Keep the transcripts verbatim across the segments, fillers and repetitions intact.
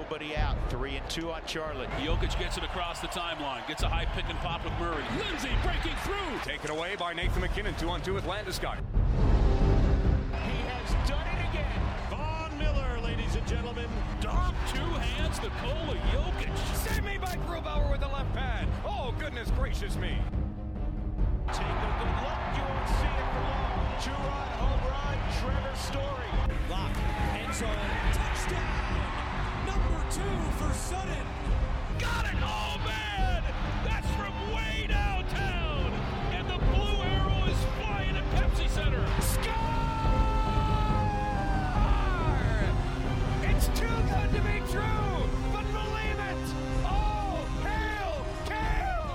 nobody out. Three and two on Charlotte. Jokic gets it across the timeline. Gets a high pick and pop with Murray. Lindsay breaking through. Taken away by Nathan McKinnon. Two on two with Landeskog. He has done it again. Von Miller, ladies and gentlemen. Dog two hands Nikola Jokic. Save me by Grubauer with the left pad. Oh, goodness gracious me. Take a good look. You won't see it for long. Two-run home run. Trevor Story. Lock. End zone. Touchdown. Number two for Sutton. Got it. Oh, man. That's from way downtown. And the blue arrow is flying at Pepsi Center. Score! It's too good to be true. But believe it. Oh, hail, Kale!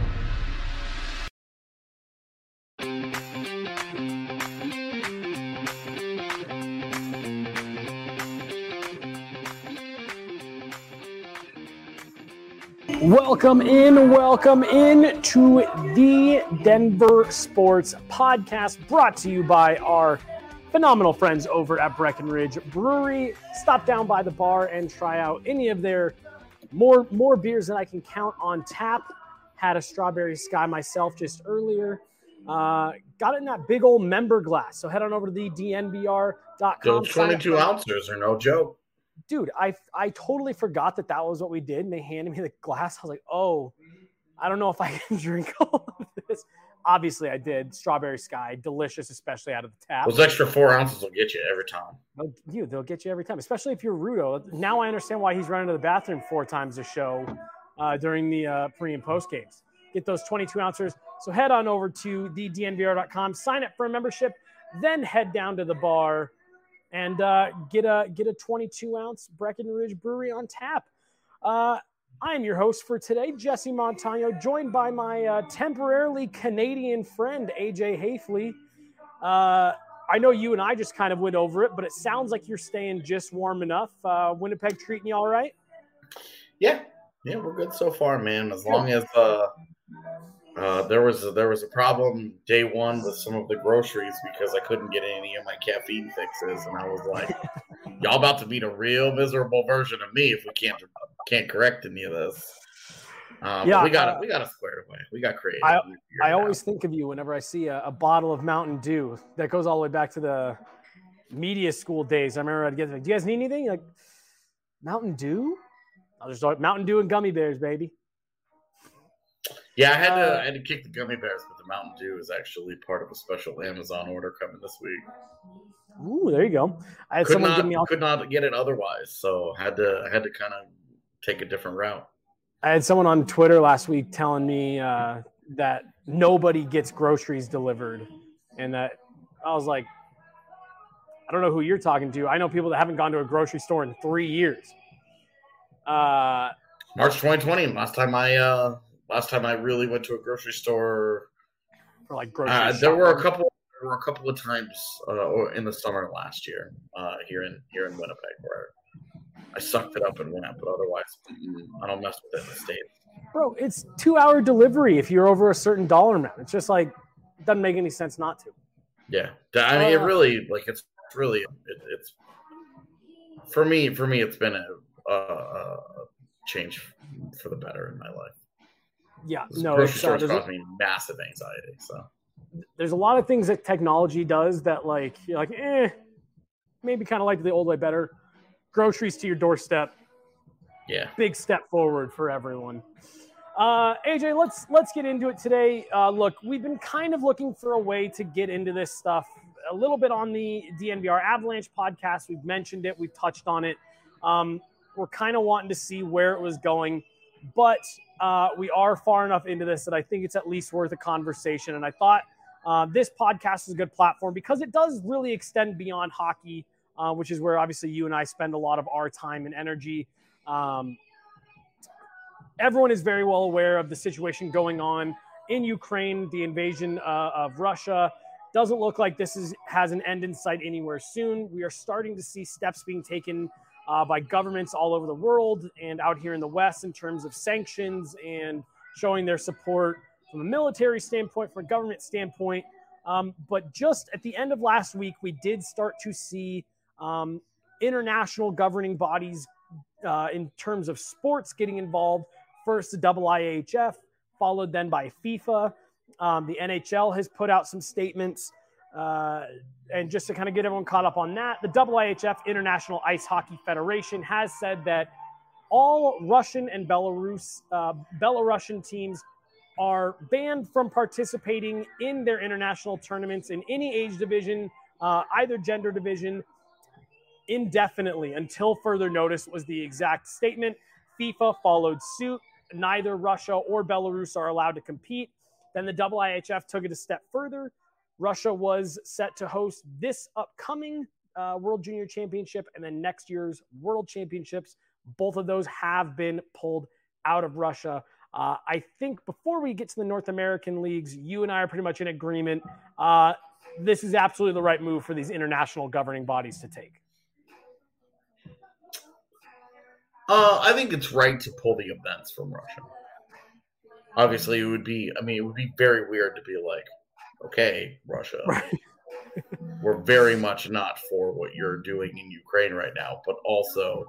Welcome in, welcome in to the Denver Sports Podcast, brought to you by our phenomenal friends over at Breckenridge Brewery. Stop down by the bar and try out any of their more more beers that I can count on tap. Had a Strawberry Sky myself just earlier. Uh, got it in that big old member glass. So head on over to the D N B R dot com. Those twenty-two ounces are no joke. Dude, I I totally forgot that that was what we did, and they handed me the glass. I was like, oh, I don't know if I can drink all of this. Obviously, I did. Strawberry Sky, delicious, especially out of the tap. Those extra four ounces will get you every time. They'll, you, they'll get you every time, especially if you're Rudo. Now I understand why he's running to the bathroom four times a show uh, during the uh, pre- and post games. Get those twenty-two ounces. So head on over to the D N B R dot com, sign up for a membership, then head down to the bar and uh, get a get a twenty-two ounce Breckenridge Brewery on tap. Uh, I am your host for today, Jesse Montano, joined by my uh, temporarily Canadian friend, A J Hafley. Uh, I know you and I just kind of went over it, but it sounds like you're staying just warm enough. Uh, Winnipeg treating you all right? Yeah, yeah, we're good so far, man. As long as uh, uh, there was a, there was a problem day one with some of the groceries because I couldn't get any of my caffeine fixes, and I was like, "Y'all about to meet a real miserable version of me if we can't can't correct any of this." Um, yeah, we got uh, it. We got it squared away. We got creative. I, I always think of you whenever I see a, a bottle of Mountain Dew that goes all the way back to the media school days. I remember I'd get like, "Do you guys need anything?" You're like, Mountain Dew? I'll just like Mountain Dew and gummy bears, baby. Yeah, I had to uh, I had to kick the gummy bears, but the Mountain Dew is actually part of a special Amazon order coming this week. Ooh, there you go. I had could someone not, give me all- could not get it otherwise, so had to I had to kind of take a different route. I had someone on Twitter last week telling me uh, that nobody gets groceries delivered, and that I was like, I don't know who you're talking to. I know people that haven't gone to a grocery store in three years. Uh, March twenty twenty, last time I uh, last time I really went to a grocery store. For like grocery uh, there were a couple. There were a couple of times uh, in the summer last year uh, here in here in Winnipeg where I sucked it up and went, but otherwise I don't mess with it in the States. Bro, it's two-hour delivery if you're over a certain dollar amount. It's just like it doesn't make any sense not to. Yeah, I mean, uh, it really like it's really it, it's for me. For me, it's been a, a, a change for the better in my life. Yeah, this no, grocery it's, stores uh, caused me massive anxiety. So there's a lot of things that technology does that, like, you're like, eh, maybe kind of like the old way better. Groceries to your doorstep. Yeah, big step forward for everyone. Uh, A J, let's let's get into it today. Uh, look, we've been kind of looking for a way to get into this stuff a little bit on the D N V R Avalanche podcast. We've mentioned it. We've touched on it. Um, we're kind of wanting to see where it was going, but uh, we are far enough into this that I think it's at least worth a conversation. And I thought uh, this podcast is a good platform because it does really extend beyond hockey, uh, which is where obviously you and I spend a lot of our time and energy. Um, everyone is very well aware of the situation going on in Ukraine, the invasion uh, of Russia. Doesn't look like this is has an end in sight anywhere soon. We are starting to see steps being taken uh, by governments all over the world and out here in the West in terms of sanctions and showing their support from a military standpoint, from a government standpoint. Um, but just at the end of last week, we did start to see um, international governing bodies uh, in terms of sports getting involved. First, the double I H F, followed then by FIFA. Um, the N H L has put out some statements. Uh, and just to kind of get everyone caught up on that, the double I H F, International Ice Hockey Federation, has said that all Russian and Belarus, uh, Belarusian teams are banned from participating in their international tournaments in any age division, uh, either gender division, indefinitely until further notice was the exact statement. FIFA followed suit. Neither Russia or Belarus are allowed to compete. Then the double I H F took it a step further. Russia was set to host this upcoming uh, World Junior Championship and then next year's World Championships. Both of those have been pulled out of Russia. Uh, I think before we get to the North American leagues, you and I are pretty much in agreement. Uh, this is absolutely the right move for these international governing bodies to take. Uh, I think it's right to pull the events from Russia. Obviously, it would be, I mean, it would be very weird to be like, okay, Russia, right. We're very much not for what you're doing in Ukraine right now, but also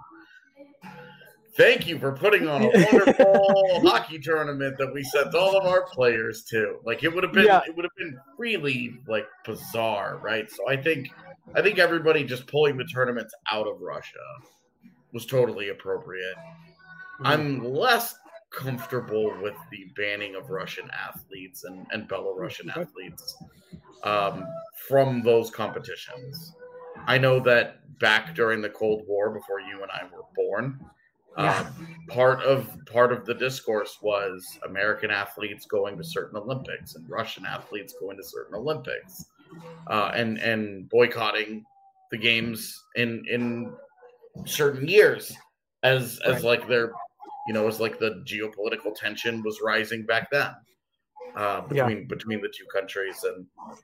thank you for putting on a wonderful hockey tournament that we sent all of our players to. Like it would have been, yeah. it would have been really like bizarre, right? So I think, I think everybody just pulling the tournaments out of Russia was totally appropriate. Mm-hmm. I'm less comfortable with the banning of Russian athletes and, and Belarusian okay. athletes um, from those competitions. I know that back during the Cold War, before you and I were born, yeah. uh, part of part of the discourse was American athletes going to certain Olympics and Russian athletes going to certain Olympics, uh, and and boycotting the games in in certain years as as right. like their you know, as like the geopolitical tension was rising back then uh, between yeah. between the two countries, and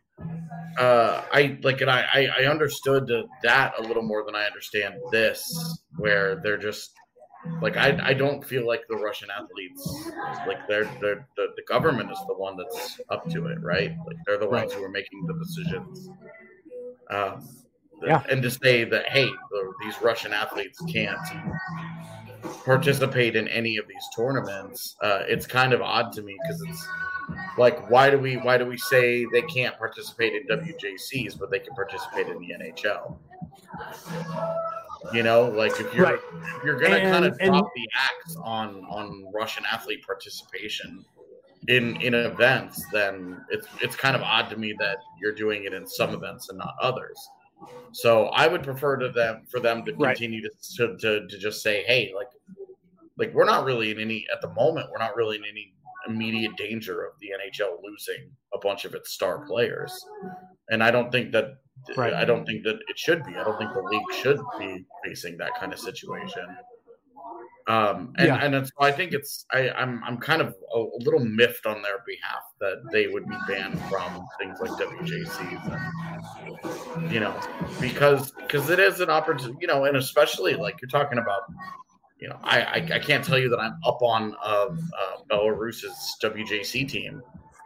uh, I like and I I understood that a little more than I understand this, where they're just like I I don't feel like the Russian athletes like they're they're the, the government is the one that's up to it, right? Like they're the ones right. who are making the decisions. Um, yeah, and to say that hey, the, these Russian athletes can't participate in any of these tournaments, uh, it's kind of odd to me because it's like why do we why do we say they can't participate in W J Cs but they can participate in the N H L? You know, like if you're right. if you're gonna kind of drop and, the axe on on Russian athlete participation in in events, then it's it's kind of odd to me that you're doing it in some events and not others. So I would prefer to them for them to continue right. to, to to just say, hey, like like we're not really in any at the moment, we're not really in any immediate danger of the N H L losing a bunch of its star players. And I don't think that right. I don't think that it should be. I don't think the league should be facing that kind of situation. Um, and, yeah. and it's, I think it's, I, I'm, I'm kind of a, a little miffed on their behalf that they would be banned from things like W J Cs, and, you know, because, because it is an opportunity, you know, and especially like you're talking about, you know, I, I, I can't tell you that I'm up on uh, uh, Belarus's W J C team,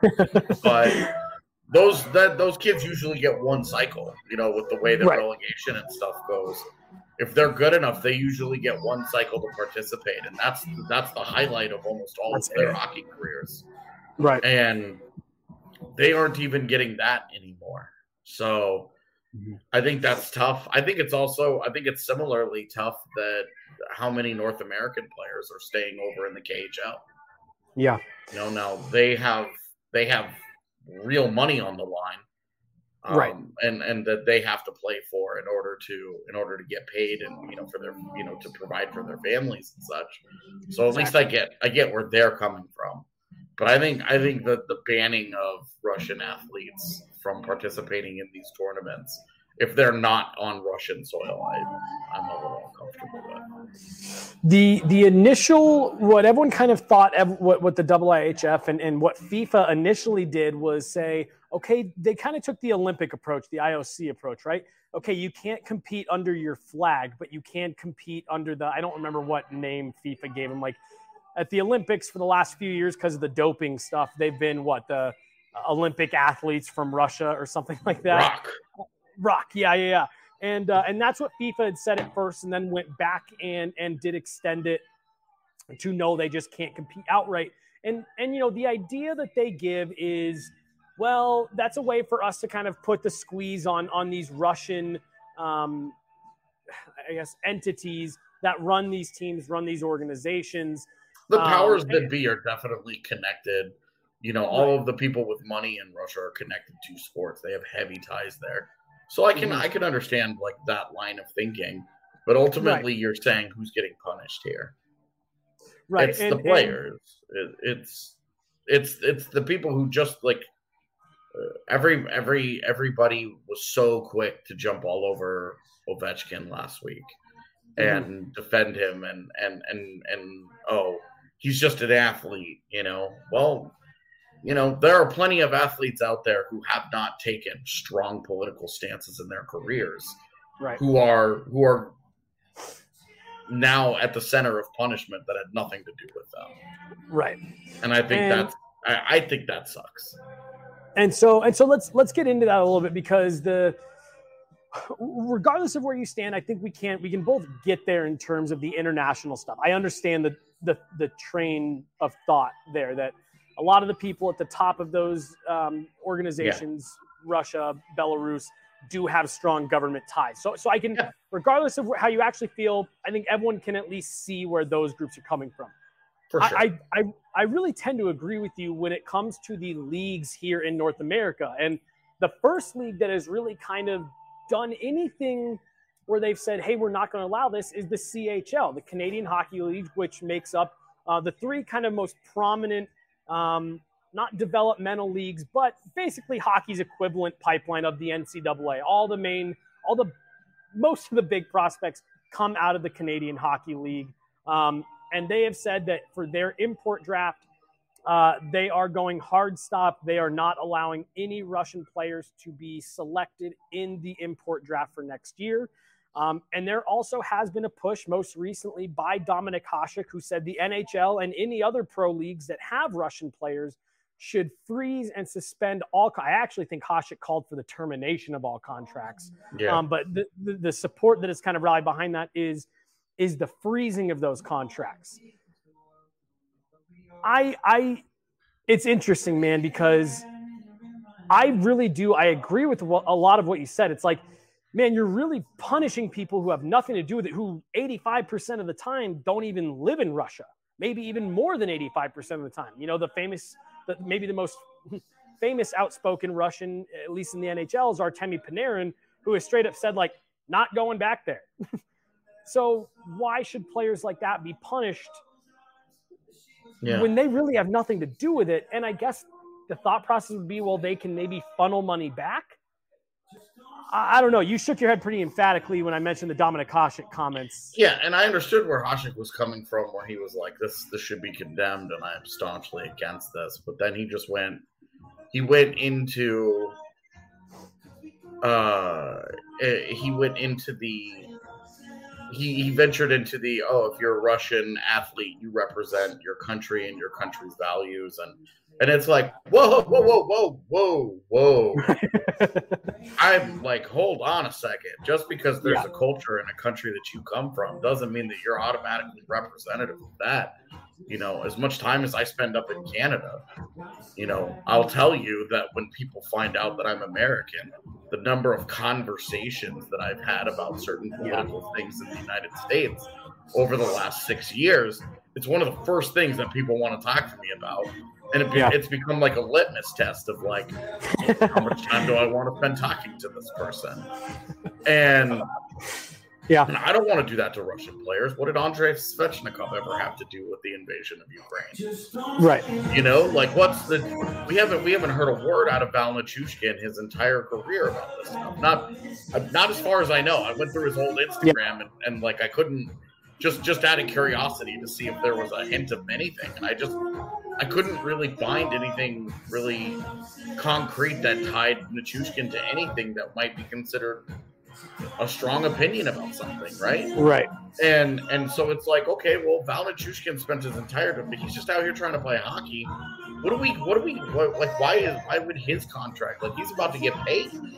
but those, that those kids usually get one cycle, you know, with the way the right. relegation and stuff goes. If they're good enough, they usually get one cycle to participate, and that's that's the highlight of almost all that's of their it. hockey careers. Right, and they aren't even getting that anymore. So mm-hmm. I think that's tough. I think it's also I think it's similarly tough that how many North American players are staying over in the K H L. Yeah, you know, now they have they have real money on the line. Um, right, and and that they have to play for in order to in order to get paid and you know for their you know to provide for their families and such. So at exactly. least I get I get where they're coming from, but I think I think that the banning of Russian athletes from participating in these tournaments, if they're not on Russian soil, I I'm a little uncomfortable with. The the initial what everyone kind of thought what what the double I H F and and what FIFA initially did was say, okay, they kind of took the Olympic approach, the I O C approach, right? Okay, you can't compete under your flag, but you can compete under the, I don't remember what name FIFA gave them. Like at the Olympics for the last few years, because of the doping stuff, they've been what, the Olympic athletes from Russia or something like that? Rock. Rock, yeah, yeah, yeah. And uh, and that's what FIFA had said at first, and then went back and and did extend it to no, they just can't compete outright. And and you know, the idea that they give is, well, that's a way for us to kind of put the squeeze on on these Russian, um, I guess, entities that run these teams, run these organizations. The powers um, that be are definitely connected. You know, all right. of the people with money in Russia are connected to sports. They have heavy ties there. So I can mm-hmm. I can understand like that line of thinking, but ultimately right. you're saying who's getting punished here? Right, it's and, the players. And... It, it's it's it's the people who just like uh, every every everybody was so quick to jump all over Ovechkin last week and mm-hmm. defend him and and and and oh, he's just an athlete, you know. Well, you know, there are plenty of athletes out there who have not taken strong political stances in their careers, right? Who are who are now at the center of punishment that had nothing to do with them, right? And I think and, that's I, I think that sucks. And so and so let's let's get into that a little bit, because the regardless of where you stand, I think we can we can both get there in terms of the international stuff. I understand the the the train of thought there that a lot of the people at the top of those um, organizations, yeah. Russia, Belarus, do have strong government ties. So, so I can, yeah. regardless of how you actually feel, I think everyone can at least see where those groups are coming from. For sure. I, I, I really tend to agree with you when it comes to the leagues here in North America. And the first league that has really kind of done anything where they've said, hey, we're not going to allow this is the C H L, the Canadian Hockey League, which makes up uh, the three kind of most prominent Um, not developmental leagues, but basically hockey's equivalent pipeline of the N C double A. All the main, all the, most of the big prospects come out of the Canadian Hockey League. Um, and they have said that for their import draft, uh, they are going hard stop. They are not allowing any Russian players to be selected in the import draft for next year. Um, and there also has been a push most recently by Dominik Hasek, who said the N H L and any other pro leagues that have Russian players should freeze and suspend all. I actually think Hasek called for the termination of all contracts. Yeah. Um, but the, the, the support that is kind of rallied behind that is, is the freezing of those contracts. I, I, it's interesting, man, because I really do. I agree with what, a lot of what you said. It's like, man, you're really punishing people who have nothing to do with it, who eighty-five percent of the time don't even live in Russia, maybe even more than eighty-five percent of the time. You know, the famous, the, maybe the most famous outspoken Russian, at least in the N H L, is Artemi Panarin, who has straight up said, like, not going back there. So why should players like that be punished yeah. when they really have nothing to do with it? And I guess the thought process would be, well, they can maybe funnel money back. I don't know. You shook your head pretty emphatically when I mentioned the Dominik Hasek comments. Yeah, and I understood where Hasek was coming from, where he was like, "This, this should be condemned," and I am staunchly against this. But then he just went, he went into, uh, he went into the, he, he ventured into the, oh, if you're a Russian athlete, you represent your country and your country's values, and and it's like, whoa, whoa, whoa, whoa, whoa, whoa. I'm like, hold on a second. Just because there's yeah. a culture in a country that you come from doesn't mean that you're automatically representative of that. You know, as much time as I spend up in Canada, you know, I'll tell you that when people find out that I'm American, the number of conversations that I've had about certain political yeah. things in the United States over the last six years, it's one of the first things that people want to talk to me about. And it, yeah. it's become like a litmus test of like, how much time do I want to spend talking to this person? And yeah, and I don't want to do that to Russian players. What did Andrei Svechnikov ever have to do with the invasion of Ukraine? Right. You know, like what's the? We haven't we haven't heard a word out of Val Nichushkin his entire career about this stuff. Not not as far as I know. I went through his old Instagram yeah. and, and like I couldn't just just out of curiosity to see if there was a hint of anything, and I just. I couldn't really find anything really concrete that tied Nichushkin to anything that might be considered a strong opinion about something, right? Right. And and so it's like, okay, well, Val Nichushkin spent his entire time, he's just out here trying to play hockey. What do we, what do we, what, like, why is, why would his contract, like, he's about to get paid.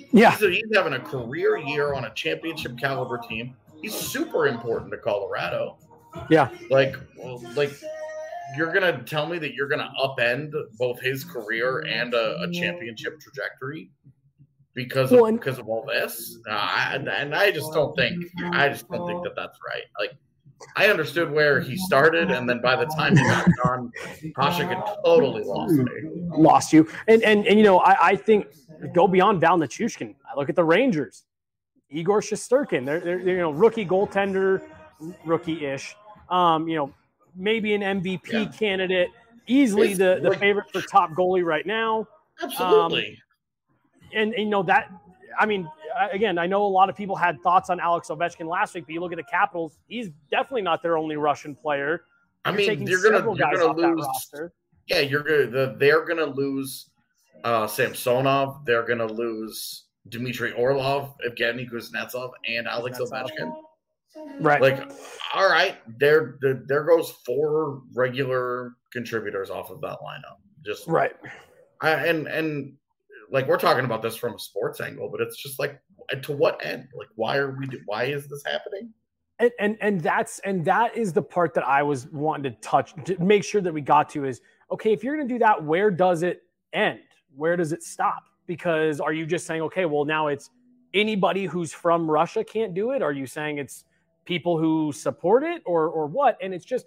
Yeah. He's, he's having a career year on a championship caliber team. He's super important to Colorado. Yeah. Like, well, like you're gonna tell me that you're gonna upend both his career and a, a championship trajectory because of, well, and, because of all this? Uh, I, and I just don't think I just don't think that that's right. Like, I understood where he started, and then by the time he got done, Hasek had totally lost me. Lost you, and and and you know, I, I think go beyond Val Nichushkin. I look at the Rangers, Igor Shesterkin. They're, they're, they're you know rookie goaltender, rookie-ish. Um, you know, maybe an M V P yeah. candidate, easily it's the, the like, favorite for top goalie right now. Absolutely. Um, and, and you know that. I mean, again, I know a lot of people had thoughts on Alex Ovechkin last week, but you look at the Capitals, he's definitely not their only Russian player. I you're mean, you're gonna, you're gonna lose. Yeah, you're gonna. The, they're gonna lose uh, Samsonov. They're gonna lose Dmitry Orlov, Evgeny Kuznetsov, and Alex Ovechkin. Right. Like, all right, there, there, there goes four regular contributors off of that lineup. Just right. I, and and. Like, we're talking about this from a sports angle, but it's just like, to what end? Like, why are we? Why is this happening? And and and that's and that is the part that I was wanting to touch to make sure that we got to is okay. If you're going to do that, where does it end? Where does it stop? Because are you just saying, okay, well now it's anybody who's from Russia can't do it? Are you saying it's people who support it, or or what? And it's just,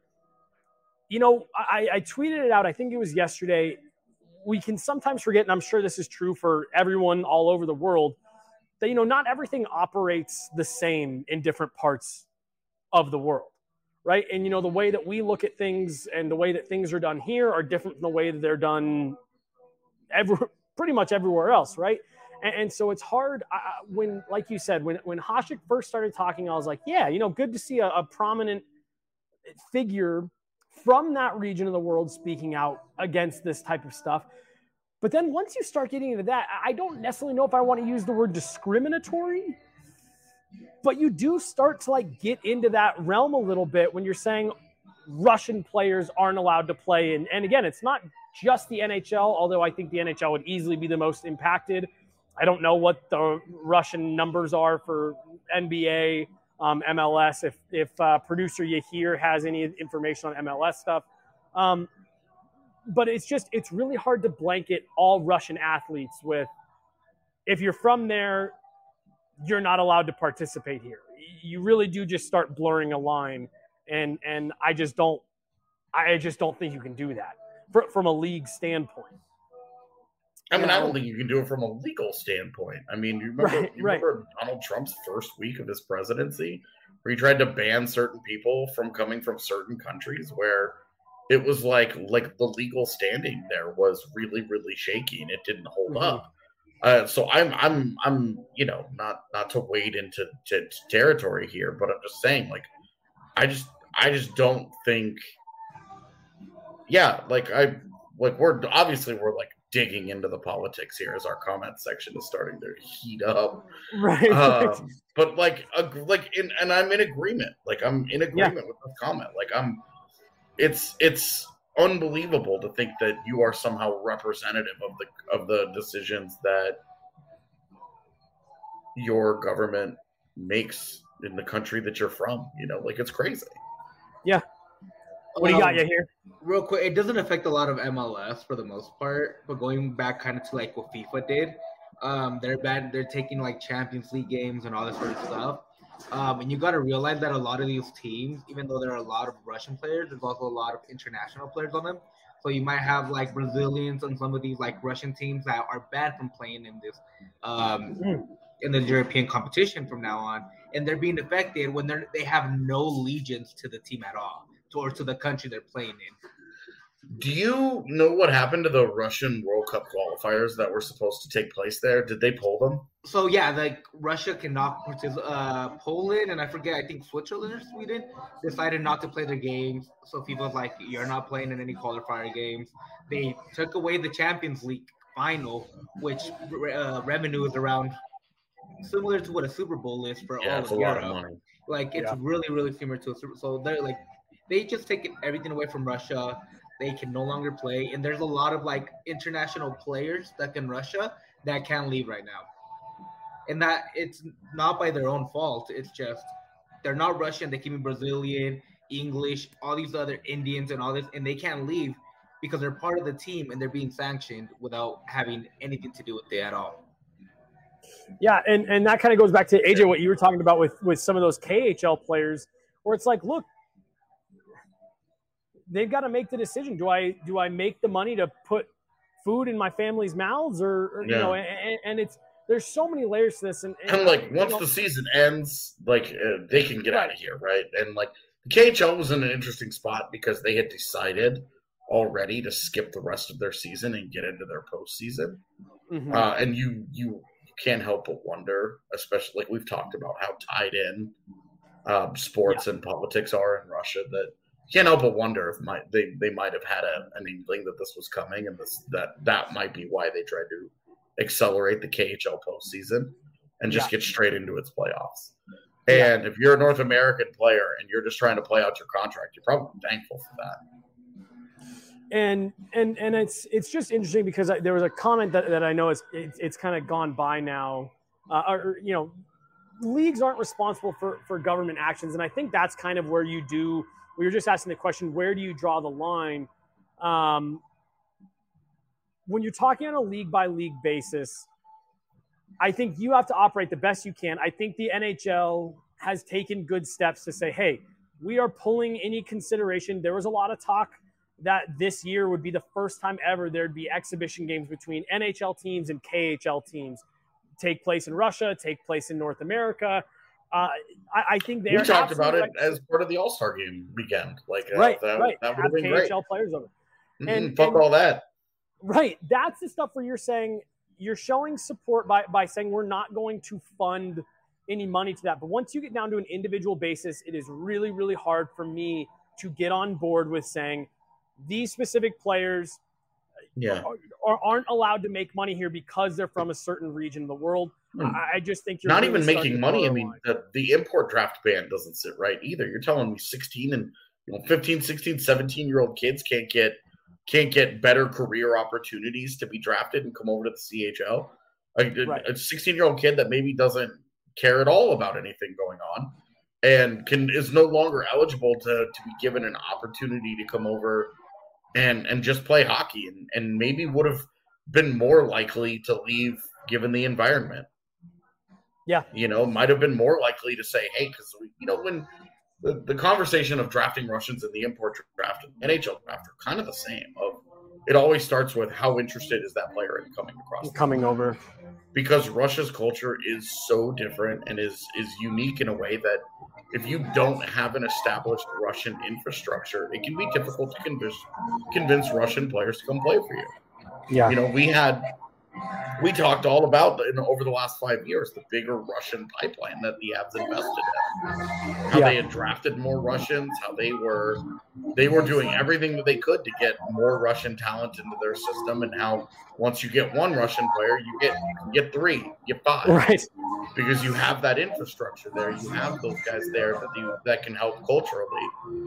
you know, I, I tweeted it out. I think it was yesterday. We can sometimes forget, and I'm sure this is true for everyone all over the world, that, you know, not everything operates the same in different parts of the world, right? And, you know, the way that we look at things and the way that things are done here are different from the way that they're done every, pretty much everywhere else, right? And, and so it's hard uh, when, like you said, when, when Hasek first started talking, I was like, yeah, you know, good to see a, a prominent figure from that region of the world speaking out against this type of stuff. But then once you start getting into that, I don't necessarily know if I want to use the word discriminatory, but you do start to like get into that realm a little bit when you're saying Russian players aren't allowed to play. And, and again, it's not just the N H L, although I think the N H L would easily be the most impacted. I don't know what the Russian numbers are for N B A, Um, M L S, if if uh, producer Yahir has any information on M L S stuff. Um, but it's just, it's really hard to blanket all Russian athletes with, if you're from there, you're not allowed to participate here. You really do just start blurring a line. And and I just don't, I just don't think you can do that for, from a league standpoint. I mean, I don't think you can do it from a legal standpoint. I mean, you remember, right, you remember right. Donald Trump's first week of his presidency, where he tried to ban certain people from coming from certain countries, where it was like like the legal standing there was really, really shaky, and it didn't hold mm-hmm. up. Uh, so I'm I'm I'm you know not not to wade into to, to territory here, but I'm just saying, like, I just I just don't think. Yeah, like I like we're obviously we're like. digging into the politics here as our comment section is starting to heat up. Right. Um, but like, uh, like, in, and I'm in agreement. Like, I'm in agreement yeah. with the comment. Like, I'm, it's, it's unbelievable to think that you are somehow representative of the, of the decisions that your government makes in the country that you're from, you know, like, it's crazy. Yeah. What do you got, you here? Real quick, it doesn't affect a lot of M L S for the most part, but going back kind of to like what FIFA did, um, they're bad. They're taking like Champions League games and all this sort of stuff. Um, and you got to realize that a lot of these teams, even though there are a lot of Russian players, there's also a lot of international players on them. So you might have like Brazilians and some of these like Russian teams that are banned from playing in this um, in the European competition from now on, and they're being affected when they they have no allegiance to the team at all, or to the country they're playing in. Do you know what happened to the Russian World Cup qualifiers that were supposed to take place there? Did they pull them? So, yeah, like Russia cannot participate. Uh, Poland and I forget, I think Switzerland or Sweden decided not to play their games. So FIFA's like, you're not playing in any qualifier games. They took away the Champions League final, which uh, revenue is around similar to what a Super Bowl is for yeah, all it's of a Europe. lot of money. Like, it's yeah. really, really similar to a Super Bowl. So they're like, they just take everything away from Russia. They can no longer play. And there's a lot of, like, international players that in Russia that can't leave right now. and that it's not by their own fault. It's just they're not Russian. They can be Brazilian, English, all these other Indians and all this, and they can't leave because they're part of the team and they're being sanctioned without having anything to do with it at all. Yeah, and, and that kind of goes back to, A J, what you were talking about with, with some of those K H L players, where it's like, look, they've got to make the decision. Do I do I make the money to put food in my family's mouths, or, or Yeah. you know, and, and it's there's so many layers to this. And, and, And like you once know, the season ends, like uh, they can get Right. out of here, right? And like the K H L was in an interesting spot because they had decided already to skip the rest of their season and get into their postseason. mhm. Uh, and you you can't help but wonder, especially like we've talked about how tied in um, sports and politics are in Russia, that you can't help but wonder if might they, they might have had a, an inkling that this was coming, and this that that might be why they tried to accelerate the K H L postseason and just Yeah. get straight into its playoffs. Yeah. And if you're a North American player and you're just trying to play out your contract, you're probably thankful for that. And and and it's it's just interesting because I, there was a comment that, that I know is it's, it's kind of gone by now, uh, or you know, leagues aren't responsible for for government actions, and I think that's kind of where you do. We were just asking the question, where do you draw the line? Um, when you're talking on a league by league basis, I think you have to operate the best you can. I think the N H L has taken good steps to say, hey, we are pulling any consideration. There was a lot of talk that this year would be the first time ever there'd be exhibition games between N H L teams and K H L teams take place in Russia, take place in North America. Uh, I, I think they We are talked about it absolutely as part of the All-Star game weekend. Like uh, right, that, right. that would Have have been K H L great. players over. Mhm, and- fuck and- all that. Right. That's the stuff where you're saying you're showing support by, by saying we're not going to fund any money to that. But once you get down to an individual basis, it is really, really hard for me to get on board with saying these specific players Yeah. are, are, aren't allowed to make money here because they're from a certain region of the world. Hmm. I, I just think you're Not really even starting making to money. I border mean, line. the, the import draft ban doesn't sit right either. You're telling me sixteen and you know fifteen, sixteen, seventeen year old kids can't get can't get better career opportunities to be drafted and come over to the C H L. Like, a- Right. a sixteen year old kid that maybe doesn't care at all about anything going on and can is no longer eligible to, to be given an opportunity to come over and and just play hockey, and, and maybe would have been more likely to leave given the environment. Yeah. You know, might have been more likely to say, hey, because, you know, when the, the conversation of drafting Russians in the import draft and N H L draft are kind of the same. Of It always starts with how interested is that player in coming across the coming over. because Russia's culture is so different and is is unique in a way that if you don't have an established Russian infrastructure, it can be difficult to convince convince Russian players to come play for you. Yeah. You know, we had we talked all about in, over the last five years the bigger Russian pipeline that the Avs invested in, how Yeah. they had drafted more Russians, how they were they were doing everything that they could to get more Russian talent into their system, and how once you get one Russian player, you get you can get three, you get five, Right. because you have that infrastructure there, you have those guys there that you that can help culturally.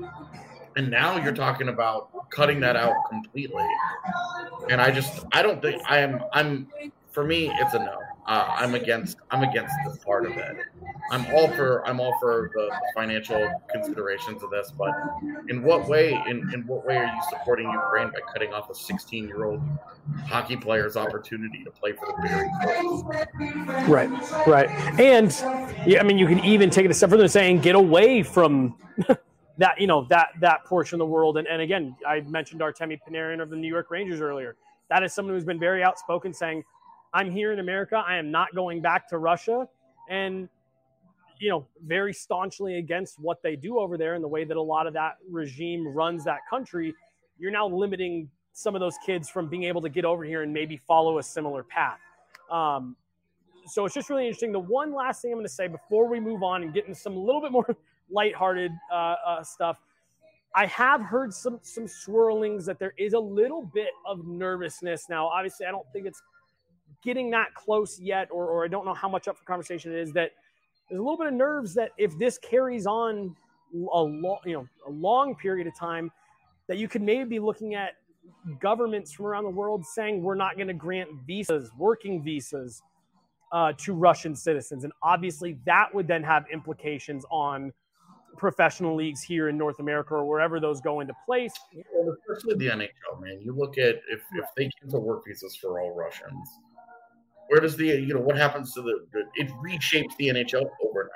And now you're talking about cutting that out completely. And I just I don't think I am I'm for me it's a no. Uh, I'm against I'm against this part of it. I'm all for I'm all for the, the financial considerations of this, but in what way in, in what way are you supporting Ukraine by cutting off a sixteen year old hockey player's opportunity to play for the bigger clubs? Right, right. And yeah, I mean, you can even take it a step further and saying get away from that, you know, that that portion of the world. And, and again, I mentioned Artemi Panarin of the New York Rangers earlier. That is someone who's been very outspoken saying, I'm here in America. I am not going back to Russia. And, you know, very staunchly against what they do over there and the way that a lot of that regime runs that country. You're now limiting some of those kids from being able to get over here and maybe follow a similar path. Um, so it's just really interesting. The one last thing I'm going to say before we move on and get into some a little bit more lighthearted uh, uh, stuff, I have heard some some swirlings that there is a little bit of nervousness. Now, obviously, I don't think it's getting that close yet, or, or I don't know how much up for conversation it is, that there's a little bit of nerves that if this carries on a long, you know, a long period of time, that you could maybe be looking at governments from around the world saying we're not going to grant visas, working visas, uh, to Russian citizens. And obviously that would then have implications on professional leagues here in North America or wherever those go into place. Well, especially the N H L, man. You look at if, if they cancel work visas for all Russians, where does the, you know, what happens to the, the it reshapes the N H L overnight.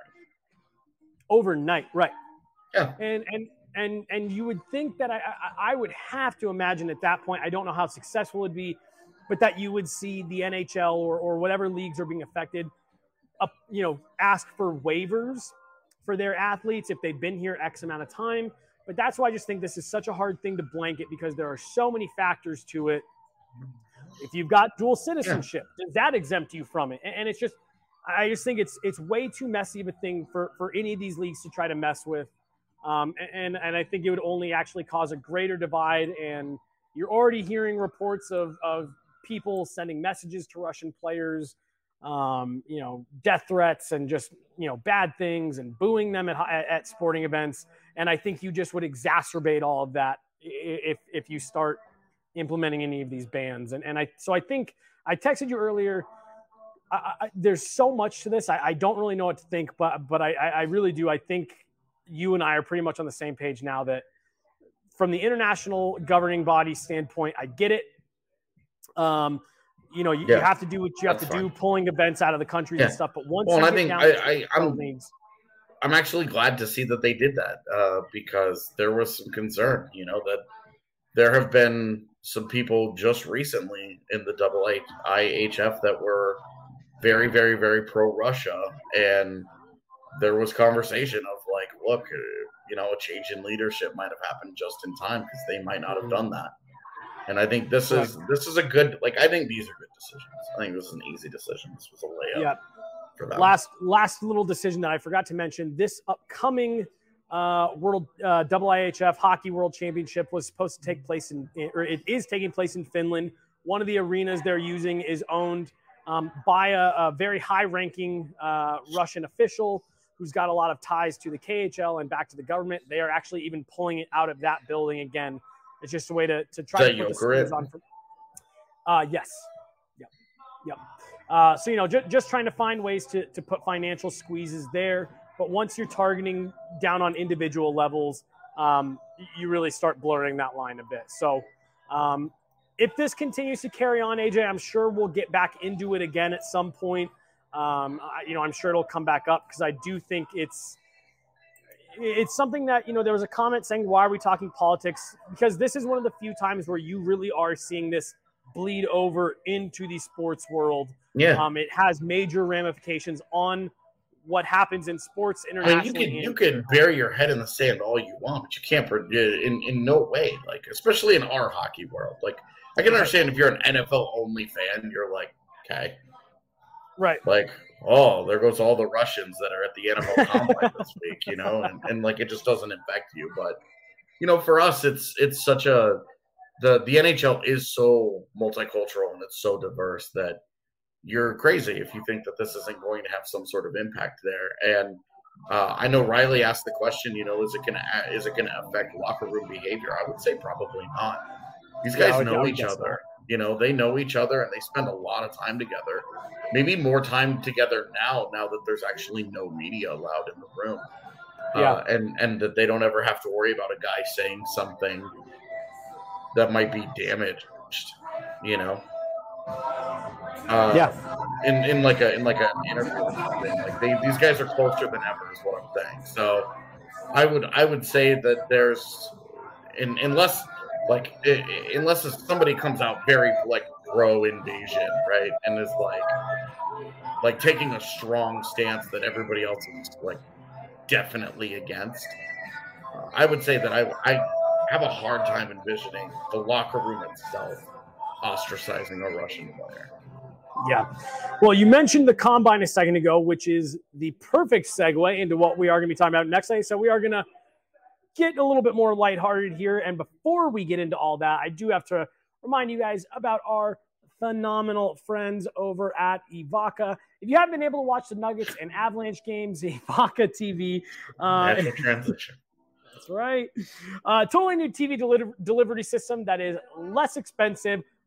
Overnight, right. Yeah. And, and, and, and you would think that I, I, I would have to imagine at that point, I don't know how successful it'd be, but that you would see the N H L or, or whatever leagues are being affected, up, you know, ask for waivers for their athletes if they've been here X amount of time. But that's why I just think this is such a hard thing to blanket because there are so many factors to it. If you've got dual citizenship, yeah. does that exempt you from it? And, and it's just, I just think it's it's way too messy of a thing for, for any of these leagues to try to mess with. Um, and, and I think it would only actually cause a greater divide. And you're already hearing reports of, of people sending messages to Russian players, um, you know, death threats and just, you know, bad things and booing them at, at, at sporting events. And I think you just would exacerbate all of that if, if you start implementing any of these bans. And, and I, so I think I texted you earlier, I, I, there's so much to this. I, I don't really know what to think, but, but I, I really do. I think you and I are pretty much on the same page now that from the international governing body standpoint, I get it. Um, You know, you, yeah, you have to do what you have to fine. do, pulling events out of the country yeah. and stuff. But once well, you I get think down I, to I, I'm, leagues, I'm actually glad to see that they did that uh, because there was some concern, you know, that there have been some people just recently in the double A I H F that were very, very, very pro-Russia. And there was conversation of like, look, uh, you know, a change in leadership might have happened just in time because they might not have done that. And I think this is this is a good, like, I think these are good decisions. I think this is an easy decision. This was a layup yeah. for them. Last last little decision that I forgot to mention: this upcoming uh, World uh, I I H F Hockey World Championship was supposed to take place in, or it is taking place in Finland. One of the arenas they're using is owned um, by a, a very high-ranking uh, Russian official who's got a lot of ties to the K H L and back to the government. They are actually even pulling it out of that building again. It's just a way to, to try Is to that put the screws Jokerit? on. For, uh, yes. Yep. Yep. Uh, so, you know, ju- just trying to find ways to, to put financial squeezes there. But once you're targeting down on individual levels, um, you really start blurring that line a bit. So um, if this continues to carry on, A J, I'm sure we'll get back into it again at some point. Um, I, you know, I'm sure it'll come back up because I do think it's, It's something that, you know, there was a comment saying, why are we talking politics? Because this is one of the few times where you really are seeing this bleed over into the sports world. Yeah. Um, it has major ramifications on what happens in sports I mean, internationally. you can you can bury your head in the sand all you want, but you can't in in no way, like, especially in our hockey world. Like, I can understand if you're an N F L only fan, you're like, okay. Right. Like, oh, there goes all the Russians that are at the N F L Combine this week, you know, and, and like it just doesn't affect you. But, you know, for us, it's it's such a the the N H L is so multicultural and it's so diverse that you're crazy if you think that this isn't going to have some sort of impact there. And uh, I know Riley asked the question, you know, is it gonna is it gonna affect locker room behavior? I would say probably not. These guys Yeah, know I each guess other. You know, they know each other and they spend a lot of time together. Maybe more time together now, now that there's actually no media allowed in the room. Yeah. Uh, and, and that they don't ever have to worry about a guy saying something that might be damaged, you know? Uh, Yeah. In, in like a in like an interview or something. Like they, these guys are closer than ever is what I'm saying. So I would I would say that there's in, unless like it, unless somebody comes out very like pro invasion, right, and is like like taking a strong stance that everybody else is like definitely against. Uh, I would say that I I have a hard time envisioning the locker room itself ostracizing a Russian player. Yeah. Well, you mentioned the Combine a second ago, which is the perfect segue into what we are going to be talking about next night. So we are going to get a little bit more lighthearted here. And before we get into all that, I do have to remind you guys about our phenomenal friends over at Evoca. If you haven't been able to watch the Nuggets and Avalanche games, Evoca T V. Uh, Natural transition. That's right. Uh, totally new T V deli- delivery system that is less expensive,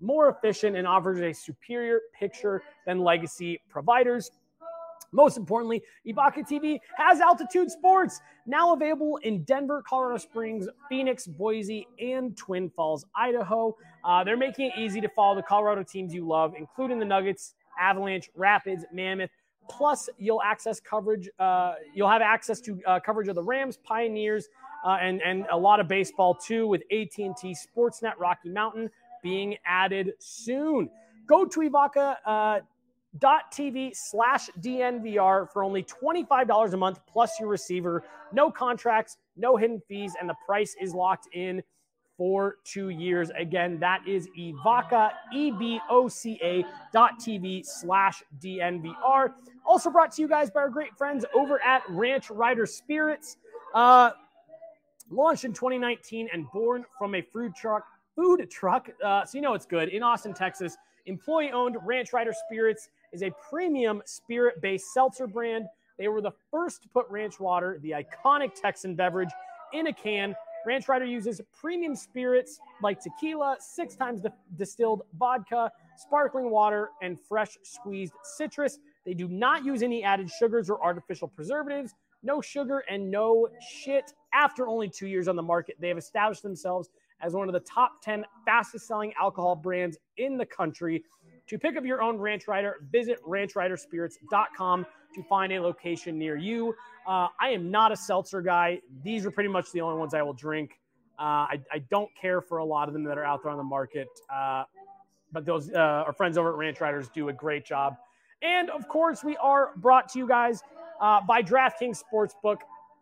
more efficient, and offers a superior picture than legacy providers. Most importantly, Evoca T V has Altitude Sports, now available in Denver, Colorado Springs, Phoenix, Boise, and Twin Falls, Idaho. Uh, they're making it easy to follow the Colorado teams you love, including the Nuggets, Avalanche, Rapids, Mammoth. Plus, you'll access coverage. Uh, you'll have access to uh, coverage of the Rams, Pioneers, uh, and and a lot of baseball too, with A T and T Sportsnet Rocky Mountain being added soon. Go to Evoca uh, dot T V slash D N V R for only twenty-five dollars a month plus your receiver. No contracts, no hidden fees, and the price is locked in for two years. Again, that is Evoca, E V O C A dot T V slash D N V R. Also brought to you guys by our great friends over at Ranch Rider Spirits. Uh, launched in twenty nineteen and born from a food truck, food truck. Uh, so you know it's good. In Austin, Texas, employee-owned Ranch Rider Spirits is a premium spirit-based seltzer brand. They were the first to put ranch water, the iconic Texan beverage, in a can. Ranch Rider uses premium spirits like tequila, six times the distilled vodka, sparkling water, and fresh squeezed citrus. They do not use any added sugars or artificial preservatives. No sugar and no shit. After only two years on the market, they have established themselves as one of the top ten fastest selling alcohol brands in the country. To pick up your own Ranch Rider, visit ranch rider spirits dot com to find a location near you. Uh, I am not a seltzer guy. These are pretty much the only ones I will drink. Uh, I, I don't care for a lot of them that are out there on the market. Uh, but those uh, our friends over at Ranch Riders do a great job. And, of course, we are brought to you guys uh, by DraftKings Sportsbook.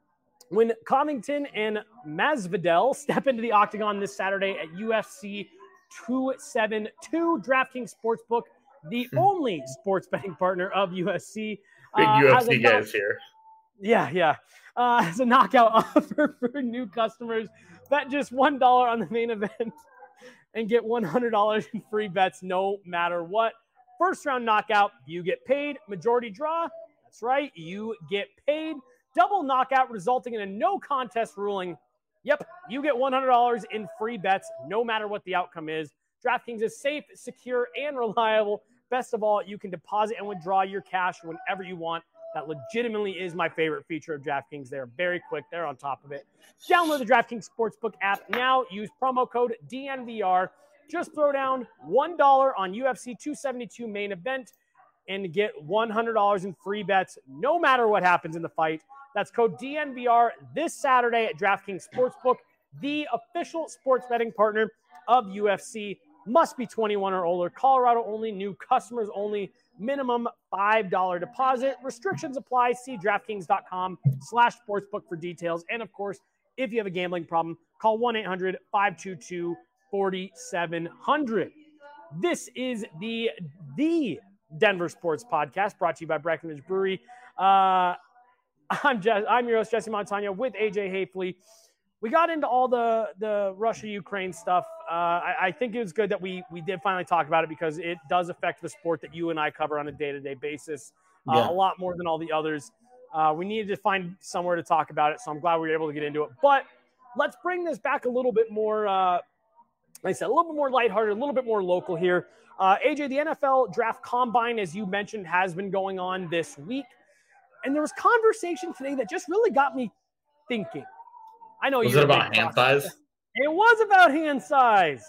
When Covington and Masvidal step into the octagon this Saturday at U F C two seventy-two, DraftKings Sportsbook, the only sports betting partner of U F C. Big uh, U F C knock- guys here. Yeah, yeah. Uh, as a knockout offer for new customers, bet just one dollar on the main event and get one hundred dollars in free bets no matter what. First round knockout, you get paid. Majority draw, that's right, you get paid. Double knockout resulting in a no contest ruling. Yep, you get one hundred dollars in free bets no matter what the outcome is. DraftKings is safe, secure, and reliable. Best of all, you can deposit and withdraw your cash whenever you want. That legitimately is my favorite feature of DraftKings. They're very quick. They're on top of it. Download the DraftKings Sportsbook app now. Use promo code D N V R. Just throw down one dollar on U F C two seventy-two main event and get one hundred dollars in free bets no matter what happens in the fight. That's code D N V R this Saturday at DraftKings Sportsbook, the official sports betting partner of U F C. Must be twenty-one or older. Colorado only. New customers only. Minimum five dollars deposit. Restrictions apply. See DraftKings.com slash sportsbook for details. And, of course, if you have a gambling problem, call one eight hundred five two two four seven zero zero. This is the, the Denver Sports Podcast brought to you by Breckenridge Brewery. Uh, I'm, Jess, I'm your host, Jesse Montano, with A J Hafley. We got into all the, the Russia-Ukraine stuff. Uh, I, I think it was good that we we did finally talk about it because it does affect the sport that you and I cover on a day-to-day basis uh, Yeah. a lot more than all the others. Uh, we needed to find somewhere to talk about it, so I'm glad we were able to get into it. But let's bring this back a little bit more, uh, like I said, a little bit more lighthearted, a little bit more local here. Uh, A J, the N F L Draft Combine, as you mentioned, has been going on this week. And there was conversation today that just really got me thinking. I know Was you're it a big about hand prospect. size? It was about hand size.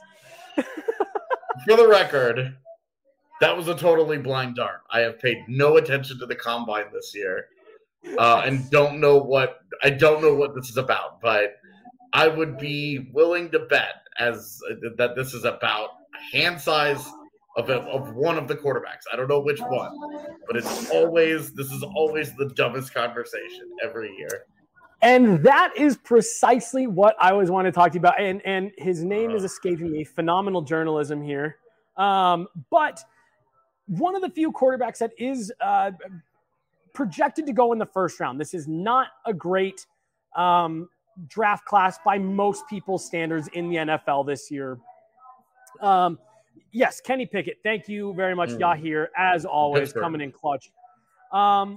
For the record, that was a totally blind dart. I have paid no attention to the combine this year, uh, and don't know what I don't know what this is about. But I would be willing to bet as uh, that this is about hand size of a, of one of the quarterbacks. I don't know which one, but it's always this is always the dumbest conversation every year. And that is precisely what I always wanted to talk to you about. And, and his name is escaping me. Phenomenal journalism here. Um, but one of the few quarterbacks that is uh, projected to go in the first round. This is not a great um, draft class by most people's standards in the N F L this year. Um, yes, Kenny Pickett. Thank you very much, Mm. Yahir, as always, Pittsburgh. coming in clutch. Um,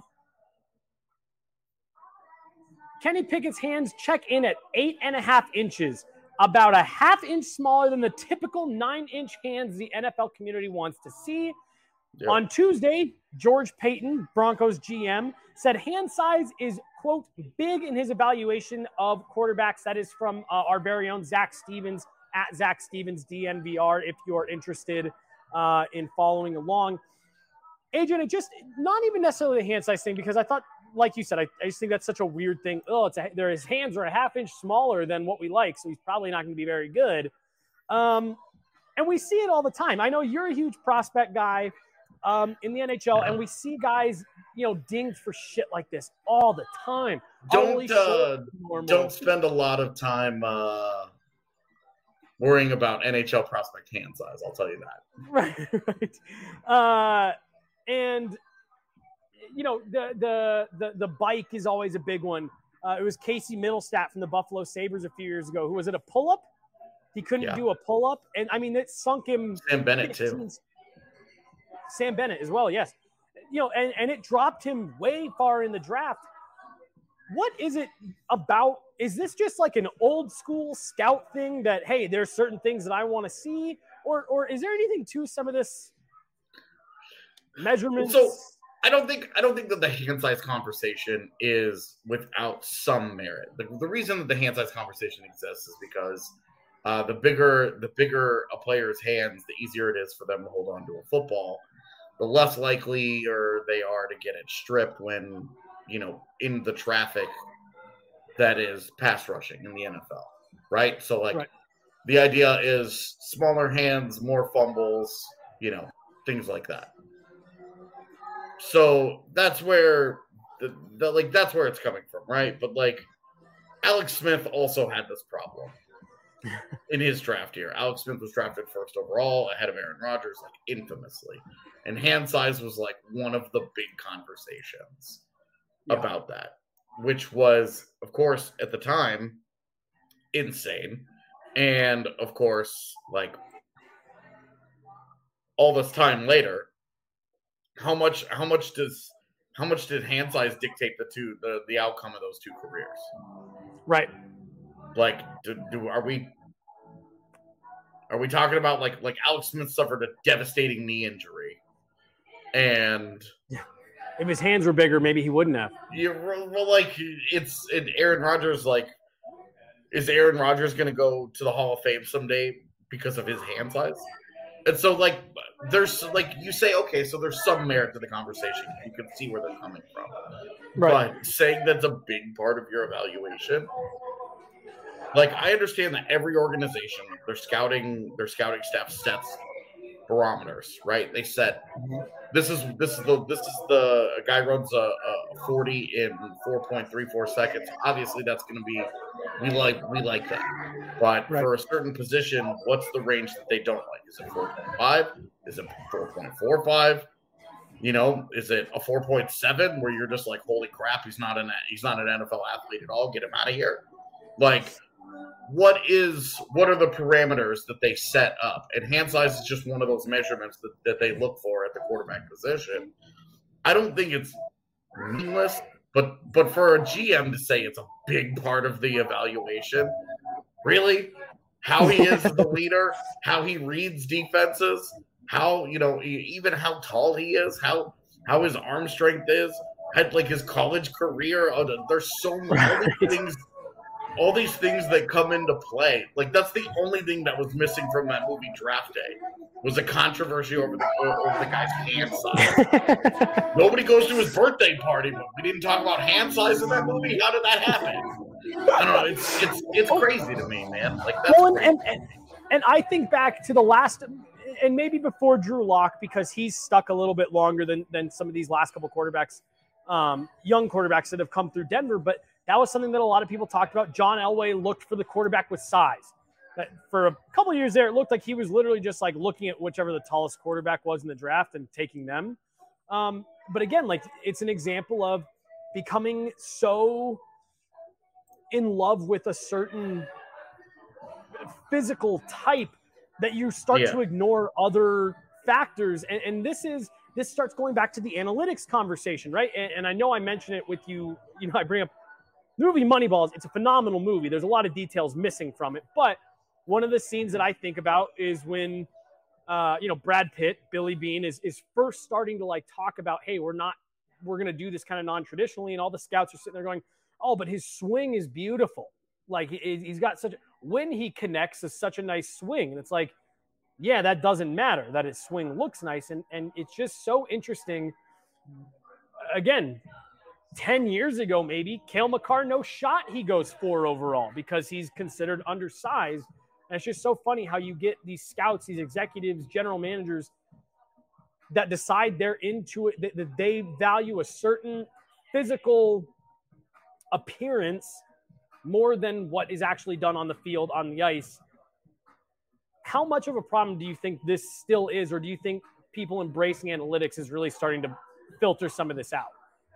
Kenny Pickett's hands check in at eight and a half inches. about a half inch smaller than the typical nine-inch hands the N F L community wants to see. Yep. On Tuesday, George Payton, Broncos G M, said hand size is, quote, big in his evaluation of quarterbacks. That is from uh, our very own Zach Stevens, at Zach Stevens D N V R, if you're interested uh, in following along. Adrian, it just, not even necessarily the hand size thing, because I thought, like you said, I, I just think that's such a weird thing. Oh, it's a, there, his hands are a half inch smaller than what we like, so he's probably not going to be very good. Um, and we see it all the time. I know you're a huge prospect guy um, in the N H L, and we see guys, you know, dinged for shit like this all the time. Don't uh, don't spend a lot of time uh, worrying about N H L prospect hand size. I'll tell you that. Right, right. Uh, and you know, the the the the bike is always a big one. Uh, it was Casey Middlestat from the Buffalo Sabres a few years ago. Who was it? A pull up? He couldn't yeah. do a pull up, and I mean it sunk him. Sam Bennett too. Sam Bennett as well, yes. You know, and, and it dropped him way far in the draft. What is it about? Is this just like an old school scout thing that, hey, there's certain things that I want to see? Or or is there anything to some of this measurements? So I don't think I don't think that the hand size conversation is without some merit. The, the reason that the hand size conversation exists is because uh, the bigger the bigger a player's hands, the easier it is for them to hold on to a football. The less likely or they are to get it stripped when, you know, in the traffic that is pass rushing in the N F L, right? So, like, right. the idea is smaller hands, more fumbles, you know, things like that. So that's where the, the like that's where it's coming from, right? But like Alex Smith also had this problem in his draft year. Alex Smith was drafted first overall ahead of Aaron Rodgers, like infamously. And hand size was like one of the big conversations yeah. about that, which was, of course, at the time, insane. And of course, like all this time later, how much how much does how much did hand size dictate the two the, the outcome of those two careers? Right. Like, do, do are we are we talking about like like Alex Smith suffered a devastating knee injury, and yeah. if his hands were bigger, maybe he wouldn't have. Yeah, well, like it's and Aaron Rodgers. Like, is Aaron Rodgers going to go to the Hall of Fame someday because of his hand size? And so, like, there's like you say, okay, so there's some merit to the conversation. You can see where they're coming from, right? But saying that's a big part of your evaluation. Like, I understand that every organization, their scouting, their scouting staff sets barometers, right? They set this is this is the this is the a guy runs a, a forty in four point three four seconds. Obviously, that's going to be we like we like that, but right. for a certain position, what's the range that they don't like? Is it four point five? Is it four point four five? You know, is it a four point seven where you're just like, holy crap, he's not an he's not an N F L athlete at all. Get him out of here, like. What is what are the parameters that they set up? And hand size is just one of those measurements that, that they look for at the quarterback position. I don't think it's meaningless, but but for a G M to say it's a big part of the evaluation, really? How he is the leader, how he reads defenses, how you know even how tall he is, how how his arm strength is, had like his college career. Oh, there's so many things. All these things that come into play, like that's the only thing that was missing from that movie Draft Day, was a controversy over the over the guy's hand size. Nobody goes to his birthday party, but we didn't talk about hand size in that movie. How did that happen? I don't know. It's it's it's crazy to me, man. Like that's well, and, and and I think back to the last, and maybe before Drew Lock, because he's stuck a little bit longer than than some of these last couple quarterbacks, um, young quarterbacks that have come through Denver, but. That was something that a lot of people talked about. John Elway looked for the quarterback with size. But for a couple of years there, it looked like he was literally just like looking at whichever the tallest quarterback was in the draft and taking them. Um, but again, like it's an example of becoming so in love with a certain physical type that you start yeah. to ignore other factors. And, and this is this starts going back to the analytics conversation, right? And, and I know I mentioned it with you. You know, I bring up the movie Moneyball. It's a phenomenal movie. There's a lot of details missing from it, but one of the scenes that I think about is when, uh, you know, Brad Pitt, Billy Beane is, is first starting to like talk about, hey, we're not, we're going to do this kind of non-traditionally. And all the scouts are sitting there going, oh, but his swing is beautiful. Like he, he's got such, when he connects is such a nice swing. And it's like, yeah, that doesn't matter that his swing looks nice. And, and it's just so interesting. Again, ten years ago, maybe Cale Makar, no shot. He goes four overall because he's considered undersized. And it's just so funny how you get these scouts, these executives, general managers that decide they're into it, that, that they value a certain physical appearance more than what is actually done on the field, on the ice. How much of a problem do you think this still is, or do you think people embracing analytics is really starting to filter some of this out?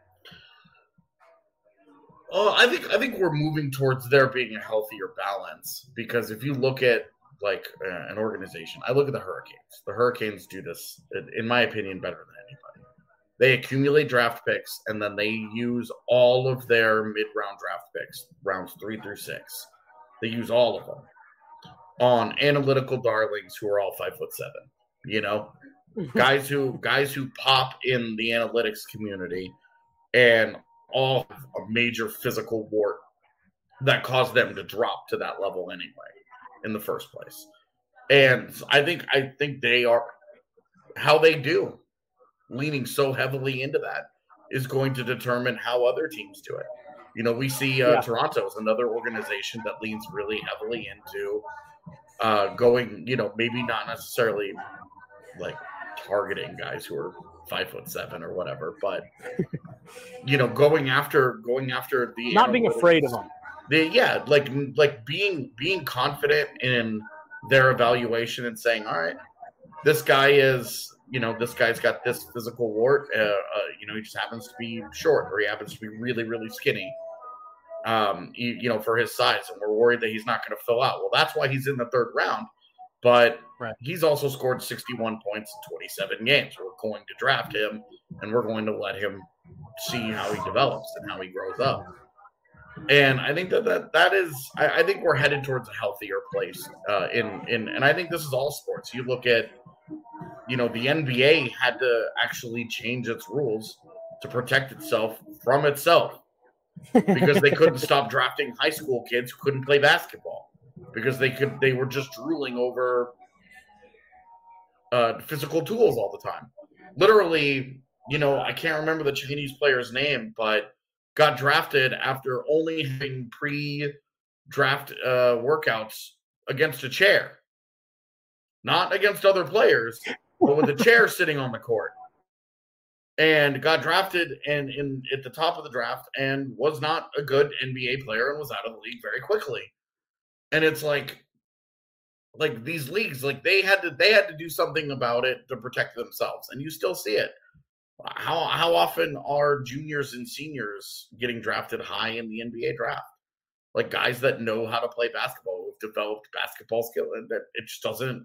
Oh, I think I think we're moving towards there being a healthier balance, because if you look at like uh, an organization, I look at the Hurricanes. The Hurricanes do this, in my opinion, better than anybody. They accumulate draft picks, and then they use all of their mid-round draft picks, rounds three through six. They use all of them on analytical darlings who are all five foot seven. You know, guys who guys who pop in the analytics community and all have a major physical wart that caused them to drop to that level anyway in the first place. And I think I think they are how they do, leaning so heavily into that is going to determine how other teams do it. You know, we see uh, yeah. Toronto is another organization that leans really heavily into uh, going, you know, maybe not necessarily like targeting guys who are five foot seven or whatever, but you know, going after going after the not being afraid of them. The, yeah, like like being being confident in their evaluation and saying, all right, this guy is, you know, this guy's got this physical wart. Uh, uh, you know, he just happens to be short, or he happens to be really, really skinny. Um, you, you know, for his size, and we're worried that he's not going to fill out. Well, that's why he's in the third round. But right. he's also scored sixty-one points in twenty-seven games. We're going to draft him, and we're going to let him see how he develops and how he grows up. And I think that that, that is – I think we're headed towards a healthier place. Uh, in in and I think this is all sports. You look at, you know, the N B A had to actually change its rules to protect itself from itself because they couldn't stop drafting high school kids who couldn't play basketball. Because they could, they were just drooling over uh, physical tools all the time. Literally, you know, I can't remember the Chinese player's name, but got drafted after only having pre-draft uh, workouts against a chair, not against other players, but with a chair sitting on the court, and got drafted and in at the top of the draft and was not a good N B A player and was out of the league very quickly. And it's like, like these leagues, like they had to, they had to do something about it to protect themselves, and you still see it. How how often are juniors and seniors getting drafted high in the N B A draft? Like guys that know how to play basketball, who've developed basketball skill, and that it just doesn't.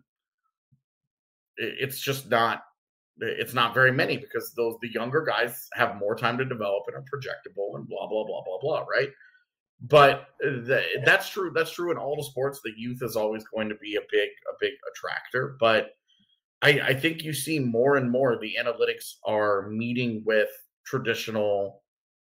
It, it's just not. It's not very many because those the younger guys have more time to develop and are projectable and blah blah blah blah blah. Right. But the, that's true. That's true in all the sports. The youth is always going to be a big, a big attractor. But I, I think you see more and more the analytics are meeting with traditional,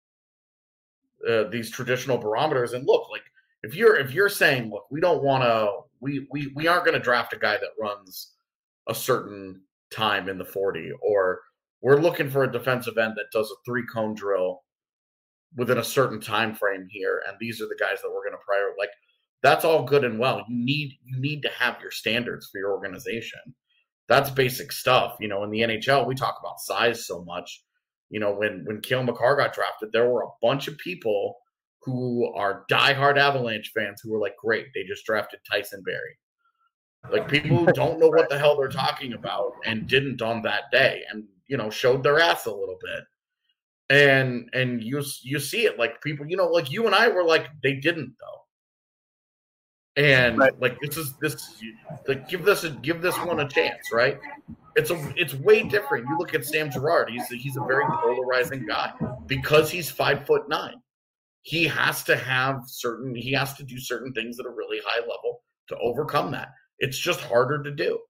uh, these traditional barometers. And look, like if you're if you're saying, look, we don't want to, we we we aren't going to draft a guy that runs a certain time in the forty, or we're looking for a defensive end that does a three cone drill within a certain time frame here, and these are the guys that we're going to prioritize. Like, that's all good and well. You need you need to have your standards for your organization. That's basic stuff. You know, in the N H L, we talk about size so much. You know, when when Cale Makar got drafted, there were a bunch of people who are diehard Avalanche fans who were like, "Great, they just drafted Tyson Barrie." Like people who don't know what the hell they're talking about and didn't on that day, and you know, showed their ass a little bit. And and you you see it, like people, you know, like you and I were like, they didn't though. And right. like this is this like give this a give this one a chance, right? It's a it's way different. You look at Sam Girard, he's a, he's a very polarizing guy because he's five foot nine. He has to have certain he has to do certain things at a really high level to overcome that. It's just harder to do.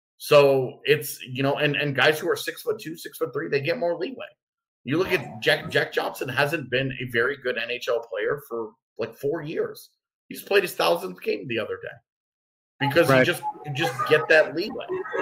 So it's, you know, and, and guys who are six foot two, six foot three, they get more leeway. You look at Jack, Jack Johnson hasn't been a very good N H L player for like four years. He just played his thousandth game the other day because right. you just you just get that leeway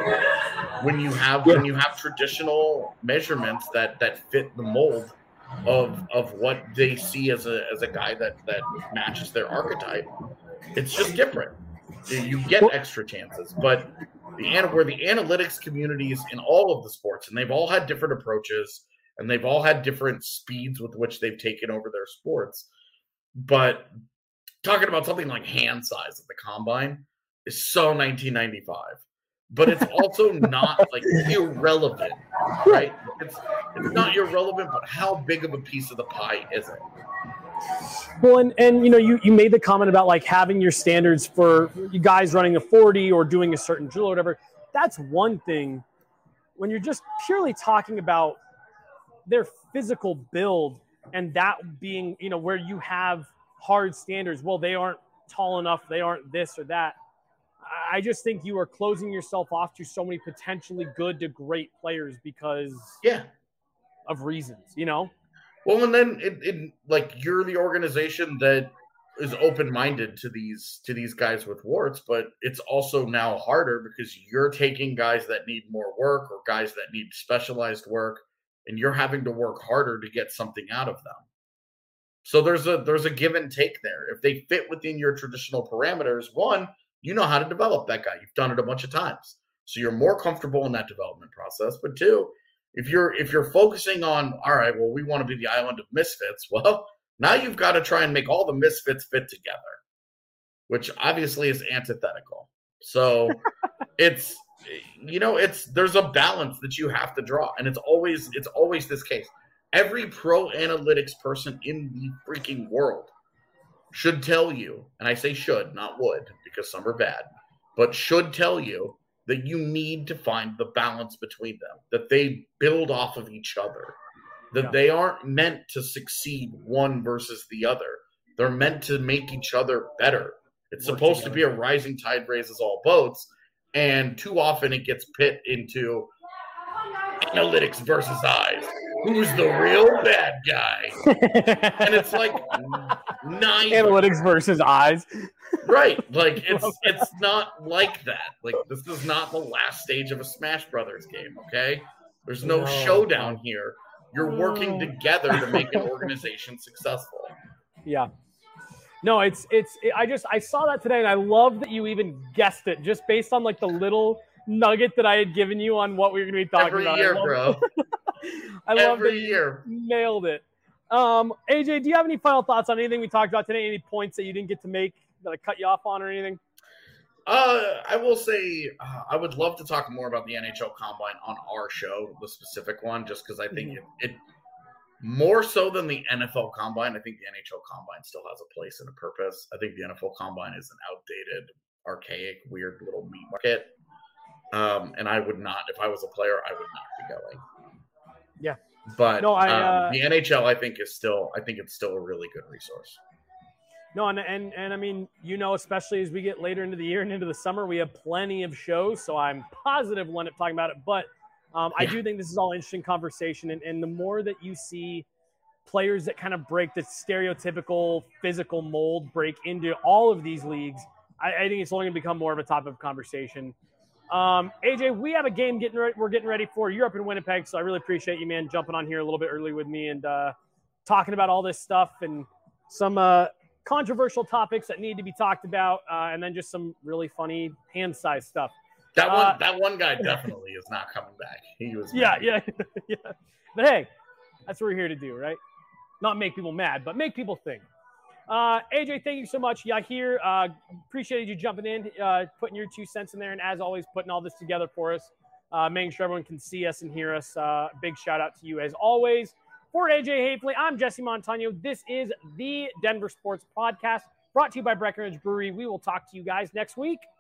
when you have yeah. when you have traditional measurements that that fit the mold of of what they see as a as a guy that that matches their archetype. It's just different. You get extra chances, but the where the analytics communities in all of the sports, and they've all had different approaches, and they've all had different speeds with which they've taken over their sports. But talking about something like hand size at the combine is so nineteen ninety-five, but it's also not like irrelevant, right? It's it's not irrelevant, but how big of a piece of the pie is it? Well, and, and you know, you, you made the comment about like having your standards for you guys running a forty or doing a certain drill or whatever. That's one thing. When you're just purely talking about their physical build and that being, you know, where you have hard standards, well, they aren't tall enough, they aren't this or that. I just think you are closing yourself off to so many potentially good to great players because yeah, of reasons, you know? Well, and then it, it like you're the organization that is open-minded to these to these guys with warts, but it's also now harder because you're taking guys that need more work or guys that need specialized work, and you're having to work harder to get something out of them. So there's a there's a give and take there. If they fit within your traditional parameters, one, you know how to develop that guy. You've done it a bunch of times. So you're more comfortable in that development process. But two, if you're if you're focusing on, all right, well, we want to be the island of misfits, well, now you've got to try and make all the misfits fit together, which obviously is antithetical. So it's, you know, it's there's a balance that you have to draw. And it's always it's always this case. Every pro analytics person in the freaking world should tell you, and I say should, not would, because some are bad, but should tell you that you need to find the balance between them, that they build off of each other, that yeah. they aren't meant to succeed one versus the other. They're meant to make each other better. It's Work supposed together. to be a rising tide raises all boats, and too often it gets pit into analytics versus eyes. Who's the real bad guy? And it's like nine analytics versus eyes. Right. Like it's it's not like that. Like this is not the last stage of a Smash Brothers game, okay? There's no, no. showdown here. You're no. working together to make an organization successful. Yeah. No, it's it's it, I just I saw that today and I love that you even guessed it just based on like the little nugget that I had given you on what we were going to be talking Every about. Year, bro. I love Every that you year. nailed it. Um, A J, do you have any final thoughts on anything we talked about today? Any points that you didn't get to make that I cut you off on or anything? Uh, I will say uh, I would love to talk more about the N H L Combine on our show, the specific one, just because I think mm-hmm. it, it more so than the N F L Combine. I think the N H L Combine still has a place and a purpose. I think the N F L Combine is an outdated, archaic, weird little meat market. Um, and I would not, if I was a player, I would not be going. Yeah. But no, I, uh, um, the N H L, I think, is still, I think it's still a really good resource. No, and, and, and I mean, you know, especially as we get later into the year and into the summer, we have plenty of shows. So I'm positive we'll end up talking about it. But um, I yeah. do think this is all interesting conversation. And, and the more that you see players that kind of break the stereotypical physical mold, break into all of these leagues, I, I think it's only going to become more of a topic of conversation. Um, A J, we have a game getting re- we're getting ready for. You're up in Winnipeg, so I really appreciate you, man, jumping on here a little bit early with me and uh, talking about all this stuff and some uh, controversial topics that need to be talked about, uh, and then just some really funny hand size stuff. That one, uh, that one guy definitely is not coming back. He was, yeah, yeah, yeah. But hey, that's what we're here to do, right? Not make people mad, but make people think. Uh, A J, thank you so much. Yeah, here, uh, appreciated you jumping in, uh, putting your two cents in there, and as always, putting all this together for us, uh, making sure everyone can see us and hear us. Uh, big shout out to you as always. For A J Hafley, I'm Jesse Montano. This is the Denver Sports Podcast, brought to you by Breckenridge Brewery. We will talk to you guys next week.